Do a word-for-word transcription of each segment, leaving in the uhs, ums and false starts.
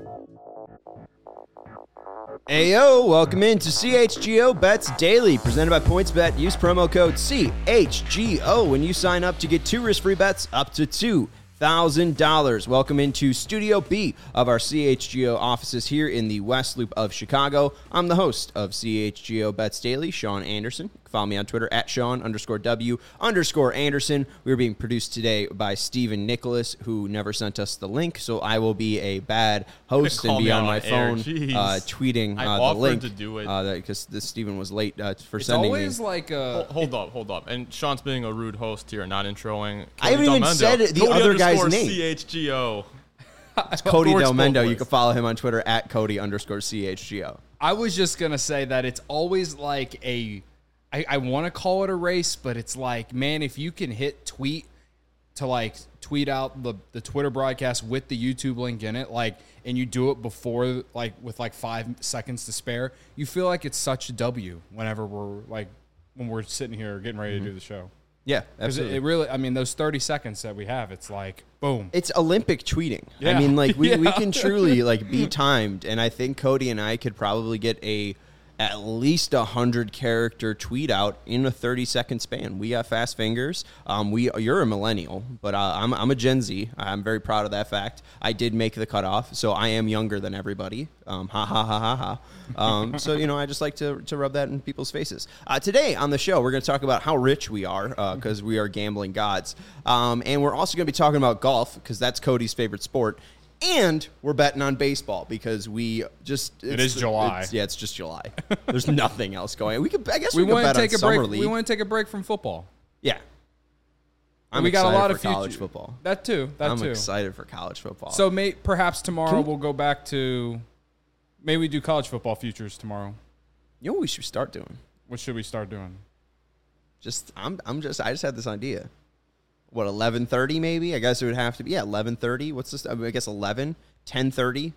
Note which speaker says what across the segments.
Speaker 1: Ayo, welcome into C H G O Bets Daily, presented by PointsBet. Use promo code C H G O when you sign up to get two risk-free bets up to two thousand dollars. Welcome into Studio B of our C H G O offices here in the West Loop of Chicago. I'm the host of C H G O Bets Daily, Sean Anderson. Follow me on Twitter at Sean underscore W underscore Anderson. We are being produced today by Stephen Nicholas, who never sent us the link, so I will be a bad host and be on my phone uh, tweeting uh, the link.
Speaker 2: to do it
Speaker 1: because uh, Stephen was late uh, for
Speaker 3: it's
Speaker 1: sending
Speaker 3: always
Speaker 1: me.
Speaker 3: like a...
Speaker 2: Hold, hold up, hold up. And Sean's being a rude host here, not introing.
Speaker 1: I haven't even said it, the
Speaker 2: Cody
Speaker 1: other guy's
Speaker 2: underscore
Speaker 1: name.
Speaker 2: C H G O.
Speaker 1: It's Cody
Speaker 2: Works
Speaker 1: Del
Speaker 2: both
Speaker 1: Mendo.
Speaker 2: ways.
Speaker 1: You can follow him on Twitter at Cody underscore C H G O.
Speaker 3: I was just going to say that it's always like a... I, I want to call it a race, but it's like, man, if you can hit tweet to like tweet out the, the Twitter broadcast with the YouTube link in it, like, and you do it before, like, with like five seconds to spare, you feel like it's such a W whenever we're like, when we're sitting here getting ready
Speaker 1: Mm-hmm.
Speaker 3: to do the show.
Speaker 1: Yeah,
Speaker 3: Because it,
Speaker 1: absolutely.
Speaker 3: it really, I mean, those thirty seconds that we have, it's like, boom.
Speaker 1: It's Olympic tweeting. I
Speaker 3: Yeah.
Speaker 1: mean, like, we, we
Speaker 3: Yeah.
Speaker 1: can truly, like, be timed, and I think Cody and I could probably get a at least a hundred character tweet out in a thirty second span. We got fast fingers. Um, we you're a millennial, but uh, I'm I'm a Gen Z. I'm very proud of that fact. I did make the cutoff, so I am younger than everybody. Um, ha ha ha ha ha. Um, so you know, I just like to to rub that in people's faces. Uh, today on the show, we're going to talk about how rich we are because uh, we are gambling gods, um, and we're also going to be talking about golf because that's Cody's favorite sport. And we're betting on baseball because we just it's,
Speaker 3: It is July.
Speaker 1: It's, yeah, it's just July. There's nothing else going. We could, I guess,
Speaker 3: we
Speaker 1: we, could
Speaker 3: want
Speaker 1: bet
Speaker 3: to take
Speaker 1: on
Speaker 3: a
Speaker 1: summer
Speaker 3: break.
Speaker 1: league.
Speaker 3: We want to take a break from football.
Speaker 1: Yeah, I'm
Speaker 3: we got a lot
Speaker 1: for
Speaker 3: of future,
Speaker 1: college football.
Speaker 3: That too. That
Speaker 1: I'm
Speaker 3: too.
Speaker 1: excited for college football.
Speaker 3: So may, perhaps tomorrow
Speaker 1: Can-
Speaker 3: we'll go back to. Maybe we do college football futures tomorrow.
Speaker 1: you know what we should start doing?
Speaker 3: What should we start doing?
Speaker 1: Just I'm I'm just I just had this idea. What eleven thirty maybe? I guess it would have to be yeah eleven thirty. What's this? I, mean, I guess eleven, ten thirty,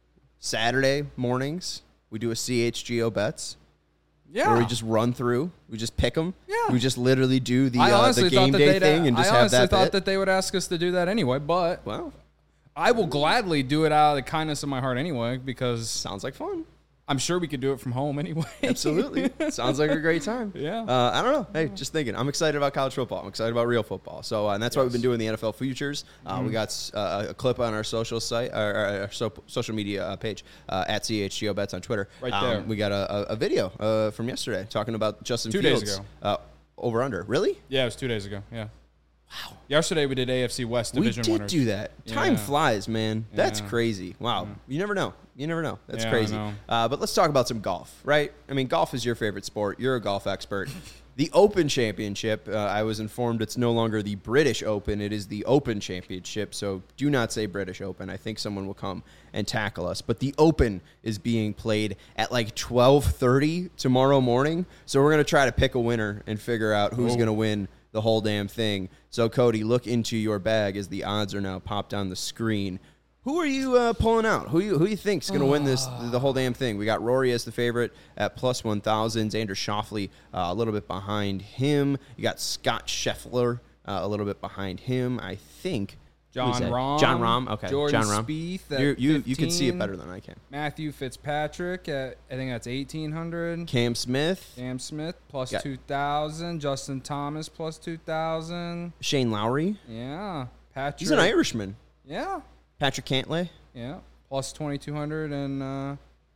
Speaker 1: Saturday mornings. We do a C H G O bets.
Speaker 3: Yeah.
Speaker 1: Where we just run through, we just pick them.
Speaker 3: Yeah.
Speaker 1: We just literally do the,
Speaker 3: I
Speaker 1: uh,
Speaker 3: honestly
Speaker 1: the
Speaker 3: thought
Speaker 1: game
Speaker 3: that
Speaker 1: day
Speaker 3: they'd.
Speaker 1: thing and just
Speaker 3: I
Speaker 1: have
Speaker 3: honestly
Speaker 1: that
Speaker 3: thought
Speaker 1: bit.
Speaker 3: that they would ask us to do that anyway, but
Speaker 1: Well,
Speaker 3: I will gladly do it out of the kindness of my heart anyway because
Speaker 1: sounds like fun.
Speaker 3: I'm sure we could do it from home anyway.
Speaker 1: Absolutely. Sounds like a great time.
Speaker 3: Yeah.
Speaker 1: Uh, I don't know. Hey, just thinking. I'm excited about college football. I'm excited about real football. So, uh, and that's why we've been doing the N F L futures. Uh,
Speaker 3: Mm-hmm.
Speaker 1: We got uh, a clip on our social site, or, or our so, social media uh, page uh, at C H G O Bets on Twitter.
Speaker 3: Right
Speaker 1: Um,
Speaker 3: there.
Speaker 1: we got a, a, a video uh, from yesterday talking about Justin
Speaker 3: Two days
Speaker 1: Fields.
Speaker 3: ago.
Speaker 1: Uh, over under. Really?
Speaker 3: Yeah, it was two days ago. Yeah. Wow. Yesterday we did A F C West
Speaker 1: We
Speaker 3: division
Speaker 1: did
Speaker 3: winners.
Speaker 1: do that. Time
Speaker 3: Yeah.
Speaker 1: flies, man. That's
Speaker 3: Yeah.
Speaker 1: crazy. Wow. You never know. You never know. That's
Speaker 3: Yeah, I
Speaker 1: crazy.
Speaker 3: know.
Speaker 1: Uh, but let's talk about some golf, right? I mean, golf is your favorite sport. You're a golf expert. The Open Championship, uh, I was informed it's no longer the British Open. It is the Open Championship. So do not say British Open. I think someone will come and tackle us. But the Open is being played at like twelve thirty tomorrow morning. So we're going to try to pick a winner and figure out who's
Speaker 3: Oh.
Speaker 1: going to win the whole damn thing. So, Cody, look into your bag as the odds are now popped on the screen. Who are you uh, pulling out? Who you who you think's going to win this the whole damn thing? We got Rory as the favorite at plus one thousand. Xander Schauffele uh, a little bit behind him. You got Scott Scheffler uh, a little bit behind him. I think who is
Speaker 3: John
Speaker 1: that?
Speaker 3: Rahm.
Speaker 1: John Rahm. Okay,
Speaker 3: Jordan
Speaker 1: John Rahm.
Speaker 3: Spieth at
Speaker 1: You you you can see it
Speaker 3: fifteen.
Speaker 1: better than I can.
Speaker 3: Matthew Fitzpatrick at, I think that's eighteen hundred.
Speaker 1: Cam Smith,
Speaker 3: Cam Smith plus
Speaker 1: Yeah.
Speaker 3: two thousand. Justin Thomas plus two thousand.
Speaker 1: Shane Lowry.
Speaker 3: Yeah. Patrick.
Speaker 1: He's an Irishman.
Speaker 3: Yeah.
Speaker 1: Patrick Cantlay.
Speaker 3: Yeah. Plus twenty-two hundred. And uh,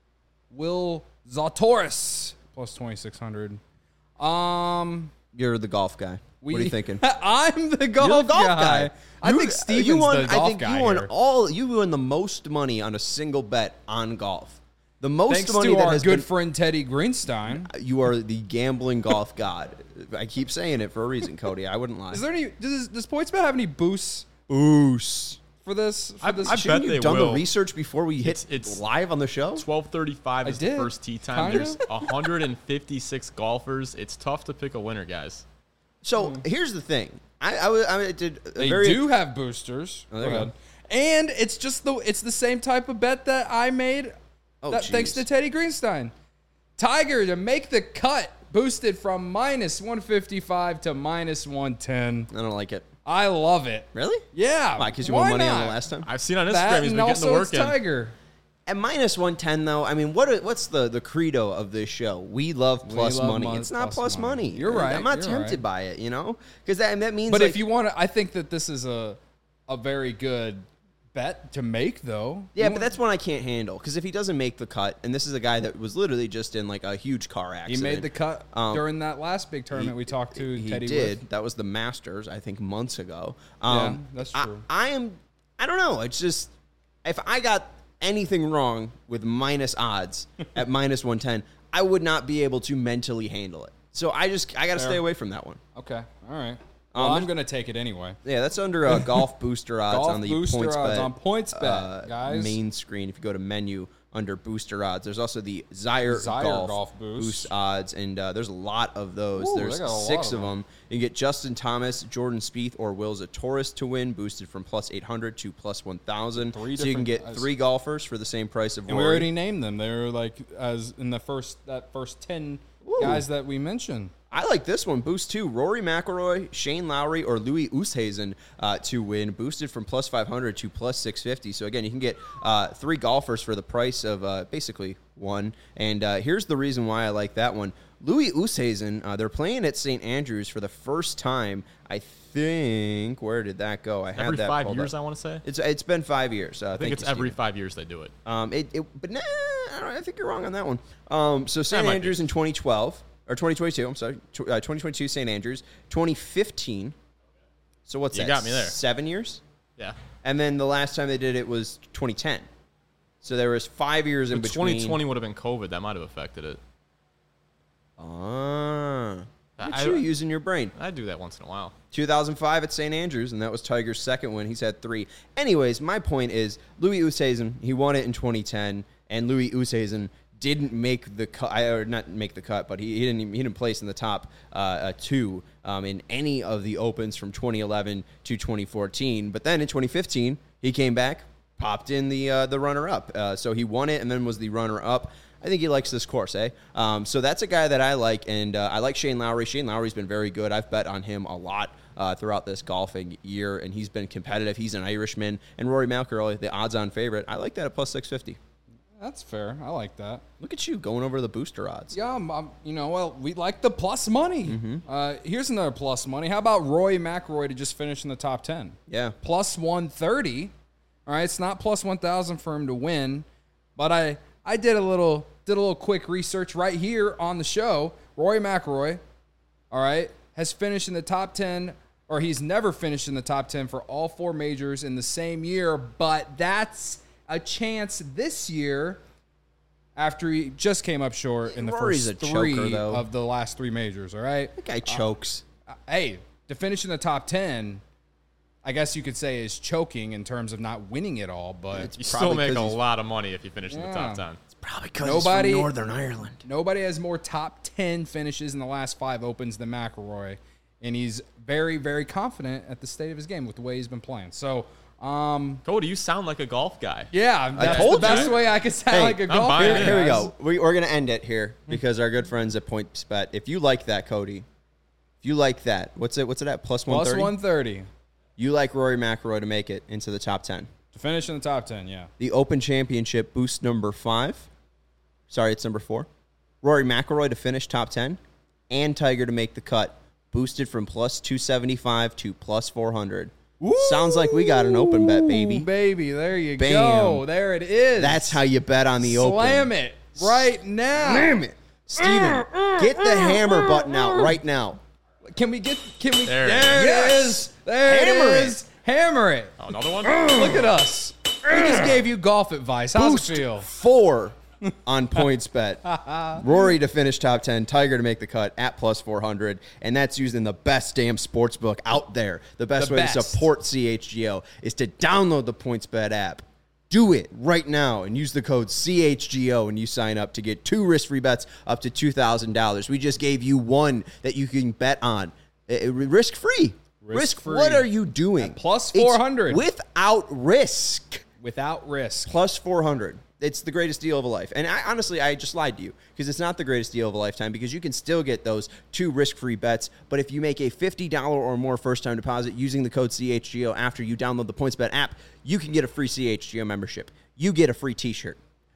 Speaker 3: Will Zalatoris plus twenty-six hundred. Um,
Speaker 1: You're the golf guy.
Speaker 3: we,
Speaker 1: what are you thinking?
Speaker 3: I'm the golf,
Speaker 1: You're the golf
Speaker 3: guy.
Speaker 1: guy.
Speaker 3: I
Speaker 1: You-
Speaker 3: think
Speaker 1: uh,
Speaker 3: Steven's
Speaker 1: you won,
Speaker 3: the golf
Speaker 1: I think
Speaker 3: guy
Speaker 1: you won
Speaker 3: here.
Speaker 1: all. You won the most money on a single bet on golf. The most
Speaker 3: Thanks
Speaker 1: money
Speaker 3: to
Speaker 1: that
Speaker 3: our
Speaker 1: has
Speaker 3: good
Speaker 1: been.
Speaker 3: friend Teddy Greenstein.
Speaker 1: You are the gambling golf god. I keep saying it for a reason, Cody. I wouldn't lie.
Speaker 3: Is there any? Does, does PointsBet have any boosts
Speaker 1: Boost.
Speaker 3: for this? For
Speaker 2: I-
Speaker 3: this
Speaker 2: I
Speaker 1: Shouldn't
Speaker 2: bet
Speaker 1: you
Speaker 2: they
Speaker 1: done
Speaker 2: will.
Speaker 1: the research before we hit
Speaker 2: It's- it's-
Speaker 1: live on the show?
Speaker 2: twelve thirty-five
Speaker 3: I
Speaker 2: is
Speaker 3: did.
Speaker 2: the first tee time.
Speaker 3: Kinda.
Speaker 2: There's one hundred fifty-six golfers. It's tough to pick a winner, guys.
Speaker 1: So here's the thing. I, I, was- I did a
Speaker 3: They
Speaker 1: very
Speaker 3: do have boosters.
Speaker 1: Oh, there you
Speaker 3: Go
Speaker 1: go.
Speaker 3: ahead. And it's just the it's the same type of bet that I made.
Speaker 1: Oh,
Speaker 3: that, thanks
Speaker 1: jeez.
Speaker 3: to Teddy Greenstein. Tiger to make the cut, boosted from minus one fifty-five to minus one ten.
Speaker 1: I don't like it.
Speaker 3: I love it.
Speaker 1: Really?
Speaker 3: Yeah.
Speaker 1: Why? Because you
Speaker 3: why
Speaker 1: won money on
Speaker 3: not?
Speaker 1: it last time.
Speaker 2: I've seen on Instagram
Speaker 3: That
Speaker 2: he's
Speaker 3: and
Speaker 2: been getting the
Speaker 3: also
Speaker 2: work
Speaker 3: it's
Speaker 2: in.
Speaker 3: Tiger.
Speaker 1: At minus one ten, though, I mean, what? what's the, the credo of this show? We love plus
Speaker 3: love
Speaker 1: money.
Speaker 3: mon-
Speaker 1: It's not
Speaker 3: plus
Speaker 1: plus money.
Speaker 3: money. You're right,
Speaker 1: I'm not
Speaker 3: you're
Speaker 1: tempted
Speaker 3: right.
Speaker 1: by it, you know? Because that, that means
Speaker 3: But
Speaker 1: like,
Speaker 3: if you want to, I think that this is a a very good bet to make, though.
Speaker 1: Yeah,
Speaker 3: You
Speaker 1: but
Speaker 3: want-
Speaker 1: that's one I can't handle. Because if he doesn't make the cut, and this is a guy that was literally just in like a huge car
Speaker 3: he
Speaker 1: accident.
Speaker 3: made the cut
Speaker 1: Um,
Speaker 3: during that last big tournament we talked to
Speaker 1: He
Speaker 3: Teddy
Speaker 1: did.
Speaker 3: with.
Speaker 1: That was the Masters, I think, months ago.
Speaker 3: Yeah,
Speaker 1: Um,
Speaker 3: that's
Speaker 1: I-
Speaker 3: true.
Speaker 1: I, am. I don't know. It's just if I got anything wrong with minus odds at minus one ten, I would not be able to mentally handle it. So I just I got to
Speaker 3: Fair.
Speaker 1: stay away from that one.
Speaker 3: Okay, all right. Well,
Speaker 1: Um,
Speaker 3: I'm gonna take it anyway.
Speaker 1: Yeah, that's under uh, golf booster odds
Speaker 3: Golf
Speaker 1: on the
Speaker 3: booster
Speaker 1: points
Speaker 3: odds
Speaker 1: bet,
Speaker 3: on PointsBet,
Speaker 1: uh,
Speaker 3: guys.
Speaker 1: main screen. If you go to menu under booster odds, there's also the Zaire,
Speaker 3: Zaire
Speaker 1: golf,
Speaker 3: Golf Boost.
Speaker 1: odds, and uh, there's a lot of those.
Speaker 3: Ooh,
Speaker 1: there's
Speaker 3: they got a lot
Speaker 1: six
Speaker 3: of
Speaker 1: of them. You can get Justin Thomas, Jordan Spieth, or Will Zalatoris to win, boosted from plus eight hundred to plus one thousand.
Speaker 3: Three
Speaker 1: So you can
Speaker 3: different-
Speaker 1: get
Speaker 3: as-
Speaker 1: three golfers for the same price of
Speaker 3: And we
Speaker 1: Rory.
Speaker 3: already named them. They're like as in the first that first ten
Speaker 1: Ooh.
Speaker 3: guys that we mentioned.
Speaker 1: I like this one. Boost two. Rory McIlroy, Shane Lowry, or Louis Oosthuizen uh, to win. Boosted from plus five hundred to plus six fifty. So, again, you can get uh, three golfers for the price of uh, basically one. And uh, here's the reason why I like that one. Louis Oosthuizen, uh, they're playing at Saint Andrews for the first time. I think, where did that go? I had
Speaker 2: Every
Speaker 1: that
Speaker 2: five
Speaker 1: pulled
Speaker 2: years,
Speaker 1: up.
Speaker 2: I want to say.
Speaker 1: It's It's been five years. Uh,
Speaker 2: I think it's every five years they do it.
Speaker 1: Um, it, it, but nah, I, don't, I think you're wrong on that one. Um, so Saint
Speaker 2: might be.
Speaker 1: Andrews in twenty twelve or twenty twenty-two. I'm sorry, tw- uh, twenty twenty-two Saint Andrews, twenty fifteen. So what's
Speaker 2: You
Speaker 1: that?
Speaker 2: got me there.
Speaker 1: Seven years,
Speaker 2: Yeah.
Speaker 1: and then the last time they did it was twenty ten. So there was five years in
Speaker 2: But
Speaker 1: between.
Speaker 2: twenty twenty would have been COVID. That might have affected it.
Speaker 1: Ah, look at
Speaker 2: I-
Speaker 1: you using your brain.
Speaker 2: I do that once in a while.
Speaker 1: two thousand five at Saint Andrews, and that was Tiger's second win. He's had three. Anyways, my point is Louis Oosthuizen, he won it in twenty ten, and Louis Oosthuizen didn't make the cut, or not make the cut, but he, he didn't he didn't place in the top uh, uh, two um, in any of the opens from twenty eleven to twenty fourteen. But then in twenty fifteen, he came back, popped in the uh, the runner up. Uh, so he won it, and then was the runner up. I think he likes this course, eh? Um, so that's a guy that I like, and uh, I like Shane Lowry. Shane Lowry's been very good. I've bet on him a lot uh, throughout this golfing year, and he's been competitive. He's an Irishman. And Rory McIlroy, the odds-on favorite, I like that at plus six fifty.
Speaker 3: That's fair. I like that.
Speaker 1: Look at you going over the booster odds.
Speaker 3: Yeah, I'm, I'm- you know, well, we like the plus money. Uh, here's another plus money. How about Rory McIlroy to just finish in the top ten?
Speaker 1: Yeah.
Speaker 3: Plus one thirty. All right, it's not plus one thousand for him to win, but I I did a little did a little quick research right here on the show. Rory McIlroy, all right, has finished in the top ten, or he's never finished in the top ten for all four majors in the same year, but that's a chance this year after he just came up short in the
Speaker 1: Rory's
Speaker 3: first
Speaker 1: a choker,
Speaker 3: three
Speaker 1: though.
Speaker 3: of the last three majors, all right?
Speaker 1: That guy chokes.
Speaker 3: Uh, hey, to finish in the top ten, I guess you could say is choking in terms of not winning it all, but
Speaker 1: It's
Speaker 2: You
Speaker 1: Probably
Speaker 2: still make
Speaker 1: 'cause
Speaker 2: a
Speaker 1: he's-
Speaker 2: lot of money if you finish in the
Speaker 3: Yeah.
Speaker 2: top ten.
Speaker 1: Probably because
Speaker 3: Nobody-
Speaker 1: he's from Northern Ireland.
Speaker 3: nobody has more top ten finishes in the last five opens than McIlroy, and he's very, very confident at the state of his game with the way he's been playing. So, um,
Speaker 2: Cody, you sound like a golf guy.
Speaker 3: yeah, that's
Speaker 1: told
Speaker 3: the best
Speaker 1: you.
Speaker 3: way I could sound
Speaker 1: Hey,
Speaker 3: like a
Speaker 2: I'm
Speaker 3: golfer.
Speaker 2: buying
Speaker 1: Here,
Speaker 2: it.
Speaker 1: here we
Speaker 3: guys.
Speaker 1: go. We, we're going to end it here because our good friends at PointsBet, if you like that, Cody, if you like that, what's it? What's it at? Plus one
Speaker 3: Plus
Speaker 1: thirty?
Speaker 3: one thirty
Speaker 1: You like Rory McIlroy to make it into the top ten.
Speaker 3: to finish in the top ten. Yeah,
Speaker 1: The Open Championship boost number five. Sorry, it's number four. Rory McIlroy to finish top ten, and Tiger to make the cut, boosted from plus two seventy-five to plus four hundred. Sounds like we got an open bet,
Speaker 3: Ooh,
Speaker 1: baby.
Speaker 3: baby, there you
Speaker 1: Bam.
Speaker 3: go. There it is.
Speaker 1: That's how you bet on the Open.
Speaker 3: Slam it right now.
Speaker 1: Slam it. Steven, get the hammer button out right now.
Speaker 3: Can we get? Can we?
Speaker 2: There it
Speaker 3: there
Speaker 1: is.
Speaker 3: it
Speaker 1: Yes.
Speaker 3: is. There
Speaker 1: Hammer
Speaker 3: it
Speaker 1: it.
Speaker 3: is. Hammer it.
Speaker 2: Oh, another one?
Speaker 3: Look at us. We just gave you golf advice. How's
Speaker 1: Boost
Speaker 3: it feel?
Speaker 1: four on PointsBet. Rory to finish top ten, Tiger to make the cut at plus four hundred, and that's using the best damn sports book out there. The best
Speaker 3: The
Speaker 1: way
Speaker 3: best.
Speaker 1: to support C H G O is to download the PointsBet app. Do it right now and use the code C H G O when you sign up to get two risk-free bets up to two thousand dollars. We just gave you one that you can bet on. Uh, risk-free. Risk,
Speaker 3: Risk-free.
Speaker 1: what are you doing?
Speaker 3: At plus
Speaker 1: It's
Speaker 3: four hundred.
Speaker 1: without risk.
Speaker 3: Without risk.
Speaker 1: Plus four hundred. It's the greatest deal of a life. And I honestly, I just lied to you because it's not the greatest deal of a lifetime because you can still get those two risk-free bets. But if you make a fifty dollars or more first-time deposit using the code C H G O after you download the PointsBet app, you can get a free C H G O membership. You get a free t-shirt.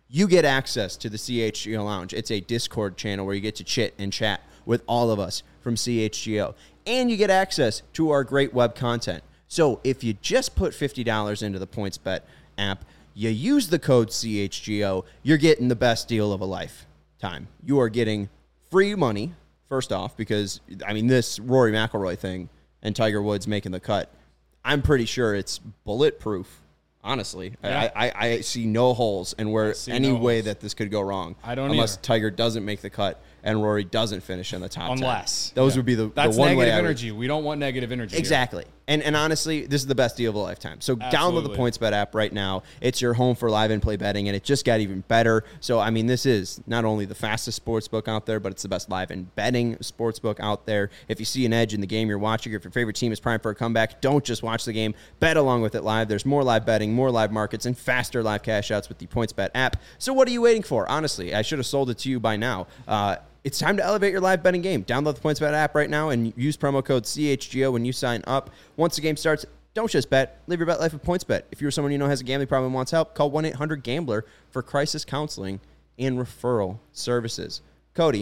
Speaker 1: you get access to the C H G O Lounge. It's a Discord channel where you get to chit and chat with all of us from C H G O. And you get access to our great web content. So if you just put fifty dollars into the PointsBet app, you use the code C H G O, you're getting the best deal of a lifetime. You are getting free money, first off, because, I mean, this Rory McIlroy thing and Tiger Woods making the cut, I'm pretty sure it's bulletproof. Honestly,
Speaker 3: Yeah.
Speaker 1: I, I, I see no holes in where any
Speaker 3: no
Speaker 1: way
Speaker 3: holes.
Speaker 1: that this could go wrong.
Speaker 3: I don't
Speaker 1: unless
Speaker 3: either.
Speaker 1: Tiger doesn't make the cut and Rory doesn't finish in the top
Speaker 3: Unless.
Speaker 1: ten. Those
Speaker 3: Yeah.
Speaker 1: would be the,
Speaker 3: That's
Speaker 1: the one way
Speaker 3: negative
Speaker 1: I would-
Speaker 3: energy. We don't want negative energy. here.
Speaker 1: Exactly. And and honestly, this is the best deal of a lifetime. So download the
Speaker 3: Absolutely.
Speaker 1: PointsBet app right now. It's your home for live and play betting, and it just got even better. So, I mean, this is not only the fastest sports book out there, but it's the best live and betting sports book out there. If you see an edge in the game you're watching, or if your favorite team is primed for a comeback, don't just watch the game. Bet along with it live. There's more live betting, more live markets, and faster live cash outs with the PointsBet app. So what are you waiting for? Honestly, I should have sold it to you by now. Uh, It's time to elevate your live betting game. Download the PointsBet app right now and use promo code C H G O when you sign up. Once the game starts, don't just bet. Live your bet life with PointsBet. If you're someone you know has a gambling problem and wants help, call one eight hundred gambler for crisis counseling and referral services. Cody.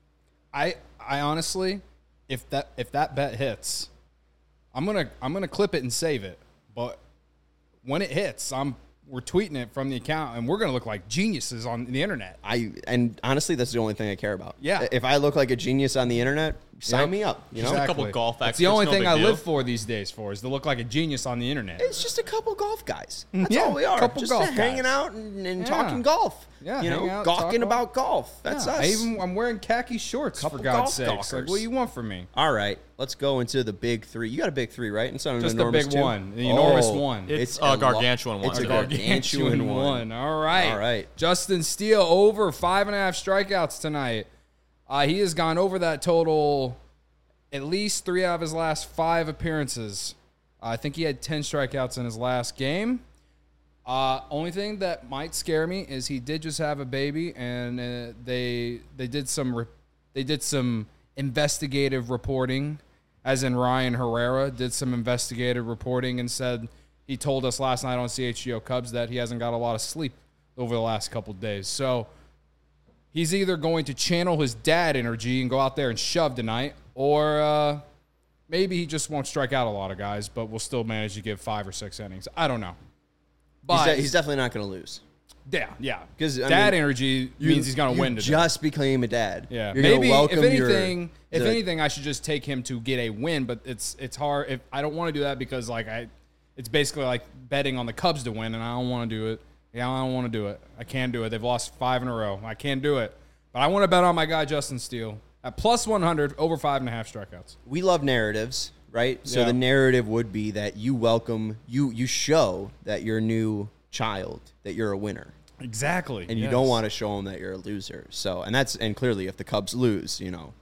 Speaker 3: I I honestly, if that if that bet hits, I'm gonna I'm gonna clip it and save it. But when it hits, I'm we're tweeting it from the account, and we're gonna look like geniuses on the internet.
Speaker 1: I and honestly, that's the only thing I care about.
Speaker 3: Yeah.
Speaker 1: If I look like a genius on the internet, sign
Speaker 3: Yep.
Speaker 1: me up. You know,
Speaker 2: Exactly. couple golf
Speaker 3: That's
Speaker 2: experts,
Speaker 3: the only
Speaker 2: no
Speaker 3: thing
Speaker 2: big
Speaker 3: I
Speaker 2: deal.
Speaker 3: live for these days for is to look like a genius on the internet.
Speaker 1: it's just a couple golf guys. That's
Speaker 3: Yeah,
Speaker 1: all we are.
Speaker 3: couple
Speaker 1: just
Speaker 3: golf
Speaker 1: hanging
Speaker 3: guys.
Speaker 1: out and, and
Speaker 3: Yeah.
Speaker 1: talking golf.
Speaker 3: Yeah,
Speaker 1: you know,
Speaker 3: hang out,
Speaker 1: gawking
Speaker 3: talk
Speaker 1: about golf. That's
Speaker 3: Yeah,
Speaker 1: us.
Speaker 3: I even I'm wearing khaki shorts
Speaker 1: Couple
Speaker 3: for God's
Speaker 1: golf
Speaker 3: sakes. Like,
Speaker 1: golfers.
Speaker 3: what do you want from me?
Speaker 1: All right, let's go into the big three. You got a big three, right? And some
Speaker 3: Just the
Speaker 1: enormous
Speaker 3: big
Speaker 1: two?
Speaker 3: one, the enormous
Speaker 1: Oh,
Speaker 3: one.
Speaker 2: It's
Speaker 1: a
Speaker 2: a
Speaker 1: lo-
Speaker 2: gargantuan one.
Speaker 1: It's a
Speaker 2: It's a
Speaker 1: gargantuan one.
Speaker 3: All right.
Speaker 1: All right.
Speaker 3: Justin Steele over five and a half strikeouts tonight. Uh, he has gone over that total at least three out of his last five appearances. Uh, I think he had ten strikeouts in his last game. Uh, only thing that might scare me is he did just have a baby, and uh, they they did some re- they did some investigative reporting, as in Ryan Herrera did some investigative reporting and said he told us last night on C H G O Cubs that he hasn't got a lot of sleep over the last couple of days. So he's either going to channel his dad energy and go out there and shove tonight, or uh, maybe he just won't strike out a lot of guys, but will still manage to give five or six innings. I don't know.
Speaker 1: He's,
Speaker 3: But
Speaker 1: de- he's definitely not going to lose.
Speaker 3: yeah, yeah.
Speaker 1: 'Cause, I
Speaker 3: dad
Speaker 1: mean,
Speaker 3: energy
Speaker 1: You-
Speaker 3: means he's going to
Speaker 1: you
Speaker 3: win today.
Speaker 1: Just became a dad.
Speaker 3: Yeah,
Speaker 1: You're gonna
Speaker 3: maybe
Speaker 1: welcome
Speaker 3: if anything,
Speaker 1: your,
Speaker 3: if
Speaker 1: the-
Speaker 3: anything, I should just take him to get a win. But it's it's hard. If I don't want to do that because like I, it's basically like betting on the Cubs to win, and I don't want to do it. Yeah, I don't want to do it. I can't do it. They've lost five in a row. I can't do it. But I want to bet on my guy Justin Steele at plus one hundred over five and a half strikeouts.
Speaker 1: we love narratives, right? So
Speaker 3: Yeah.
Speaker 1: the narrative would be that you welcome, you you show that your new child that you're a winner,
Speaker 3: Exactly.
Speaker 1: and you don't want to show them that you're a loser. So, and that's and clearly, if the Cubs lose, you know,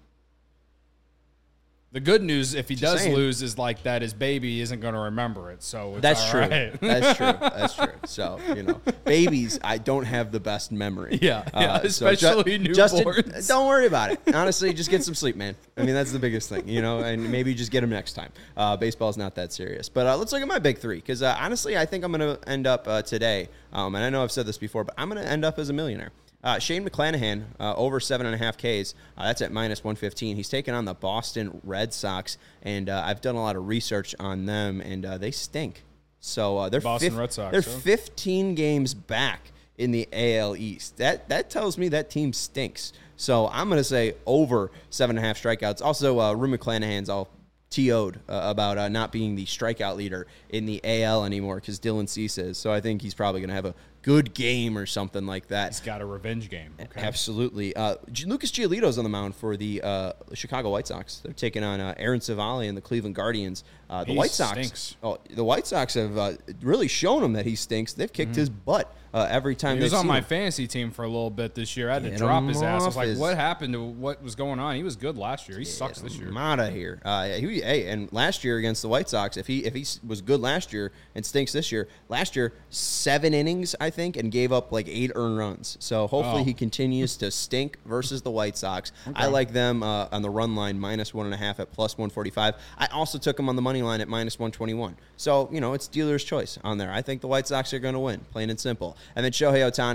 Speaker 3: The good news, if he
Speaker 1: Just
Speaker 3: does
Speaker 1: saying.
Speaker 3: lose, is like that his baby isn't going to remember it. So it's
Speaker 1: that's
Speaker 3: all
Speaker 1: true.
Speaker 3: right.
Speaker 1: That's true. That's true. So you know, babies, I don't have the best memory.
Speaker 3: Yeah, yeah,
Speaker 1: so
Speaker 3: especially
Speaker 1: Ju- Justin,
Speaker 3: newborns.
Speaker 1: don't worry about it. Honestly, just get some sleep, man. I mean, that's the biggest thing, you know, and maybe just get them next time. Uh, baseball's not that serious. But uh, let's look at my big three, because uh, honestly, I think I'm going to end up uh, today, um, and I know I've said this before, but I'm going to end up as a millionaire. Uh, Shane McClanahan, uh, over seven and a half Ks. Uh, that's at minus one fifteen. He's taking on the Boston Red Sox, and uh, I've done a lot of research on them, and uh, they stink. So uh, they're
Speaker 3: Boston
Speaker 1: fif-
Speaker 3: Red Sox,
Speaker 1: They're
Speaker 3: huh?
Speaker 1: fifteen games back in the A L East. That that tells me that team stinks. So I'm going to say over seven and a half strikeouts. Also, uh, Rue McClanahan's all T O'd uh, about uh, not being the strikeout leader in the A L anymore because Dylan Cease is. So I think he's probably going to have a good game or something like that.
Speaker 3: He's got a revenge game. Okay.
Speaker 1: Absolutely. Uh, G- Lucas Giolito's on the mound for the uh, Chicago White Sox. They're taking on uh, Aaron Savali and the Cleveland Guardians. Uh, the
Speaker 3: He
Speaker 1: White Sox.
Speaker 3: stinks.
Speaker 1: Oh, the White Sox have uh, really shown him that he stinks. They've kicked his butt uh, every time.
Speaker 3: He was
Speaker 1: they've
Speaker 3: on
Speaker 1: seen
Speaker 3: my
Speaker 1: him.
Speaker 3: fantasy team for a little bit this year. I had to
Speaker 1: Get
Speaker 3: drop
Speaker 1: him
Speaker 3: his ass. I was
Speaker 1: off
Speaker 3: like,
Speaker 1: his-
Speaker 3: what happened to what was going on? He was good last year. He sucks this year.
Speaker 1: I'm out of here. Uh, yeah, he, hey, and last year against the White Sox, if he if he was good last year and stinks this year, last year seven innings I think and gave up like eight earned runs. So hopefully
Speaker 3: Oh.
Speaker 1: he continues to stink versus the White Sox. I like them uh, on the run line minus one and a half at plus one forty five. I also took them on the money line at minus one twenty one. So you know it's dealer's choice on there. I think the White Sox are going to win, plain and simple. And then Shohei Ohtani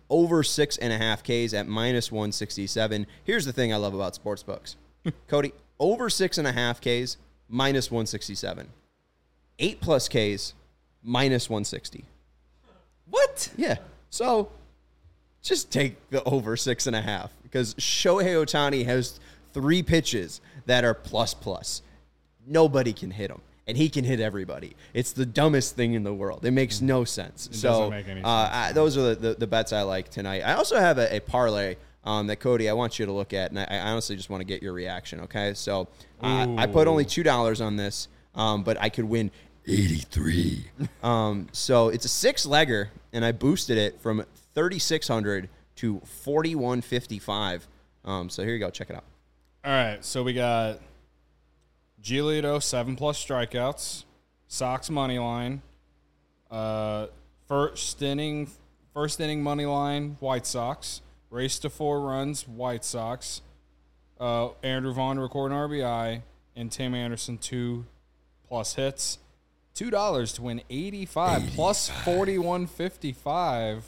Speaker 1: over six and a half Ks at minus one sixty-seven. Here's the thing I love about sportsbooks. Cody, over six and a half Ks, minus one sixty-seven. Eight plus Ks, minus one sixty.
Speaker 3: What?
Speaker 1: Yeah. So just take the over six and a half because Shohei Ohtani has three pitches that are plus plus. Nobody can hit him, and he can hit everybody. It's the dumbest thing in the world. It makes no sense.
Speaker 3: It
Speaker 1: so
Speaker 3: doesn't make any sense.
Speaker 1: Uh, I, those are the, the, the bets I like tonight. I also have a, a parlay um, that, Cody, I want you to look at, and I, I honestly just want to get your reaction, okay? So uh, I put only two dollars on this, um, but I could win eighty-three. um, so it's a six-legger, and I boosted it from thirty-six hundred to forty-one fifty-five. Um, so here you go. Check it out.
Speaker 3: All right, so we got Giolito, seven plus strikeouts, Sox money line, uh, first inning, first inning money line, White Sox, race to four runs, White Sox, uh, Andrew Vaughn recording R B I, and Tim Anderson two plus hits. Two dollars to win eighty-five, eighty-five plus forty-one fifty-five.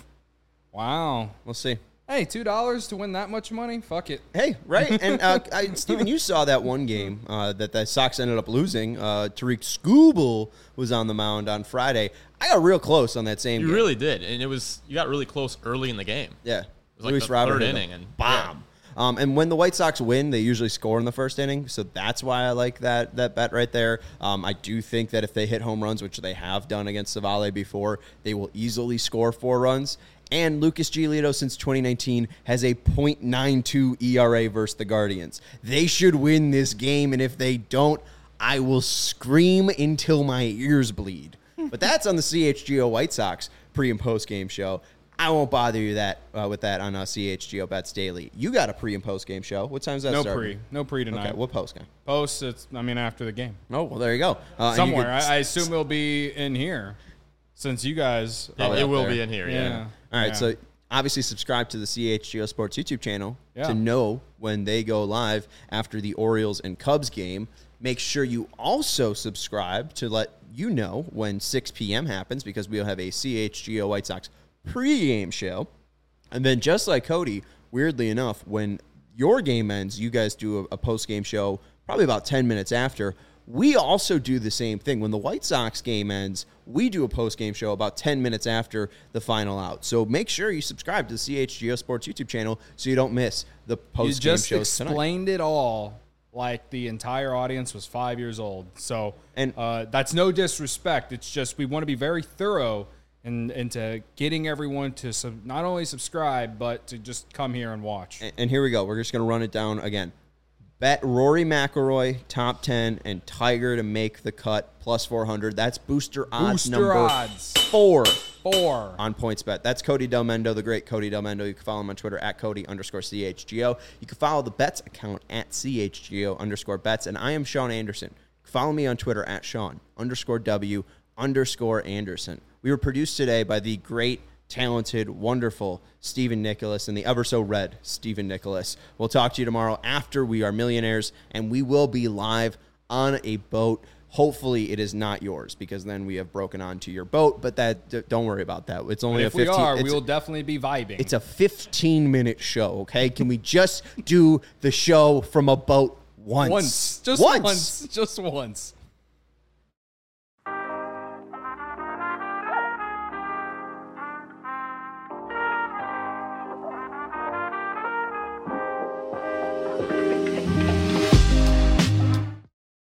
Speaker 3: Wow.
Speaker 1: We'll see.
Speaker 3: Hey, two dollars to win that much money? Fuck it.
Speaker 1: Hey, right. And, uh, I, Steven, you saw that one game uh, that the Sox ended up losing. Uh, Tariq Skubal was on the mound on Friday. I got real close on that same
Speaker 2: You
Speaker 1: game.
Speaker 2: really did. And it was, you got really close early in the game.
Speaker 1: Yeah.
Speaker 2: It was like
Speaker 1: Luis
Speaker 2: the
Speaker 1: Robert
Speaker 2: third
Speaker 1: hit
Speaker 2: inning.
Speaker 1: him.
Speaker 2: And
Speaker 1: Bomb. Um, and when the White Sox win, they usually score in the first inning, so that's why I like that that bet right there. Um, I do think that if they hit home runs, which they have done against Savale before, they will easily score four runs. And Lucas Giolito, since twenty nineteen, has a point nine two E R A versus the Guardians. They should win this game, and if they don't, I will scream until my ears bleed. But that's on the C H G O White Sox pre- and post-game show. I won't bother you that uh, with that on uh, C H G O Bets Daily. You got a pre- and post-game show. What time's that
Speaker 3: No
Speaker 1: start?
Speaker 3: pre. No pre tonight.
Speaker 1: Okay, what post game?
Speaker 3: Post, it's, I mean, after the game.
Speaker 1: Oh, well, there you go. Uh, and you
Speaker 3: Somewhere.
Speaker 1: could-
Speaker 3: I, I assume it'll be in here since you guys.
Speaker 2: Yeah,
Speaker 1: Probably
Speaker 2: it
Speaker 1: up
Speaker 2: will
Speaker 1: there.
Speaker 2: be in here, yeah.
Speaker 3: Yeah.
Speaker 1: All right,
Speaker 3: Yeah.
Speaker 1: so obviously subscribe to the C H G O Sports YouTube channel
Speaker 3: Yeah.
Speaker 1: to know when they go live after the Orioles and Cubs game. Make sure you also subscribe to let you know when six p.m. happens because we'll have a C H G O White Sox pregame show. And then just like Cody, weirdly enough, when your game ends, you guys do a, a post-game show probably about ten minutes after. We also do the same thing. When the White Sox game ends, we do a post-game show about ten minutes after the final out. So make sure you subscribe to the C H G O Sports YouTube channel so you don't miss the
Speaker 3: You
Speaker 1: post-game
Speaker 3: just
Speaker 1: shows tonight.
Speaker 3: explained it all like the entire audience was five years old. So
Speaker 1: And-
Speaker 3: uh, that's no disrespect. It's just we want to be very thorough and into getting everyone to sub- not only subscribe, but to just come here and watch.
Speaker 1: And, and here we go. We're just going to run it down again. Bet Rory McIlroy, top ten, and Tiger to make the cut, plus four hundred. That's booster odds
Speaker 3: Booster
Speaker 1: number
Speaker 3: odds.
Speaker 1: four
Speaker 3: Four.
Speaker 1: on PointsBet. That's Cody Del Mendo, the great Cody Del Mendo. You can follow him on Twitter at Cody underscore C H G O. You can follow the Bets account at C H G O underscore Bets. And I am Sean Anderson. Follow me on Twitter at Sean underscore W underscore Anderson. We were produced today by the great, talented, wonderful Stephen Nicholas and the ever so red Stephen Nicholas. We'll talk to you tomorrow after We Are Millionaires, and we will be live on a boat. Hopefully it is not yours because then we have broken onto your boat, but that d- don't worry about that. It's only
Speaker 3: if
Speaker 1: a
Speaker 3: we
Speaker 1: fifteen
Speaker 3: are,
Speaker 1: it's,
Speaker 3: we will definitely be vibing.
Speaker 1: it's a fifteen minute show, okay? Can we just do the show from a boat once?
Speaker 3: once. Just
Speaker 1: once.
Speaker 3: once. Just once.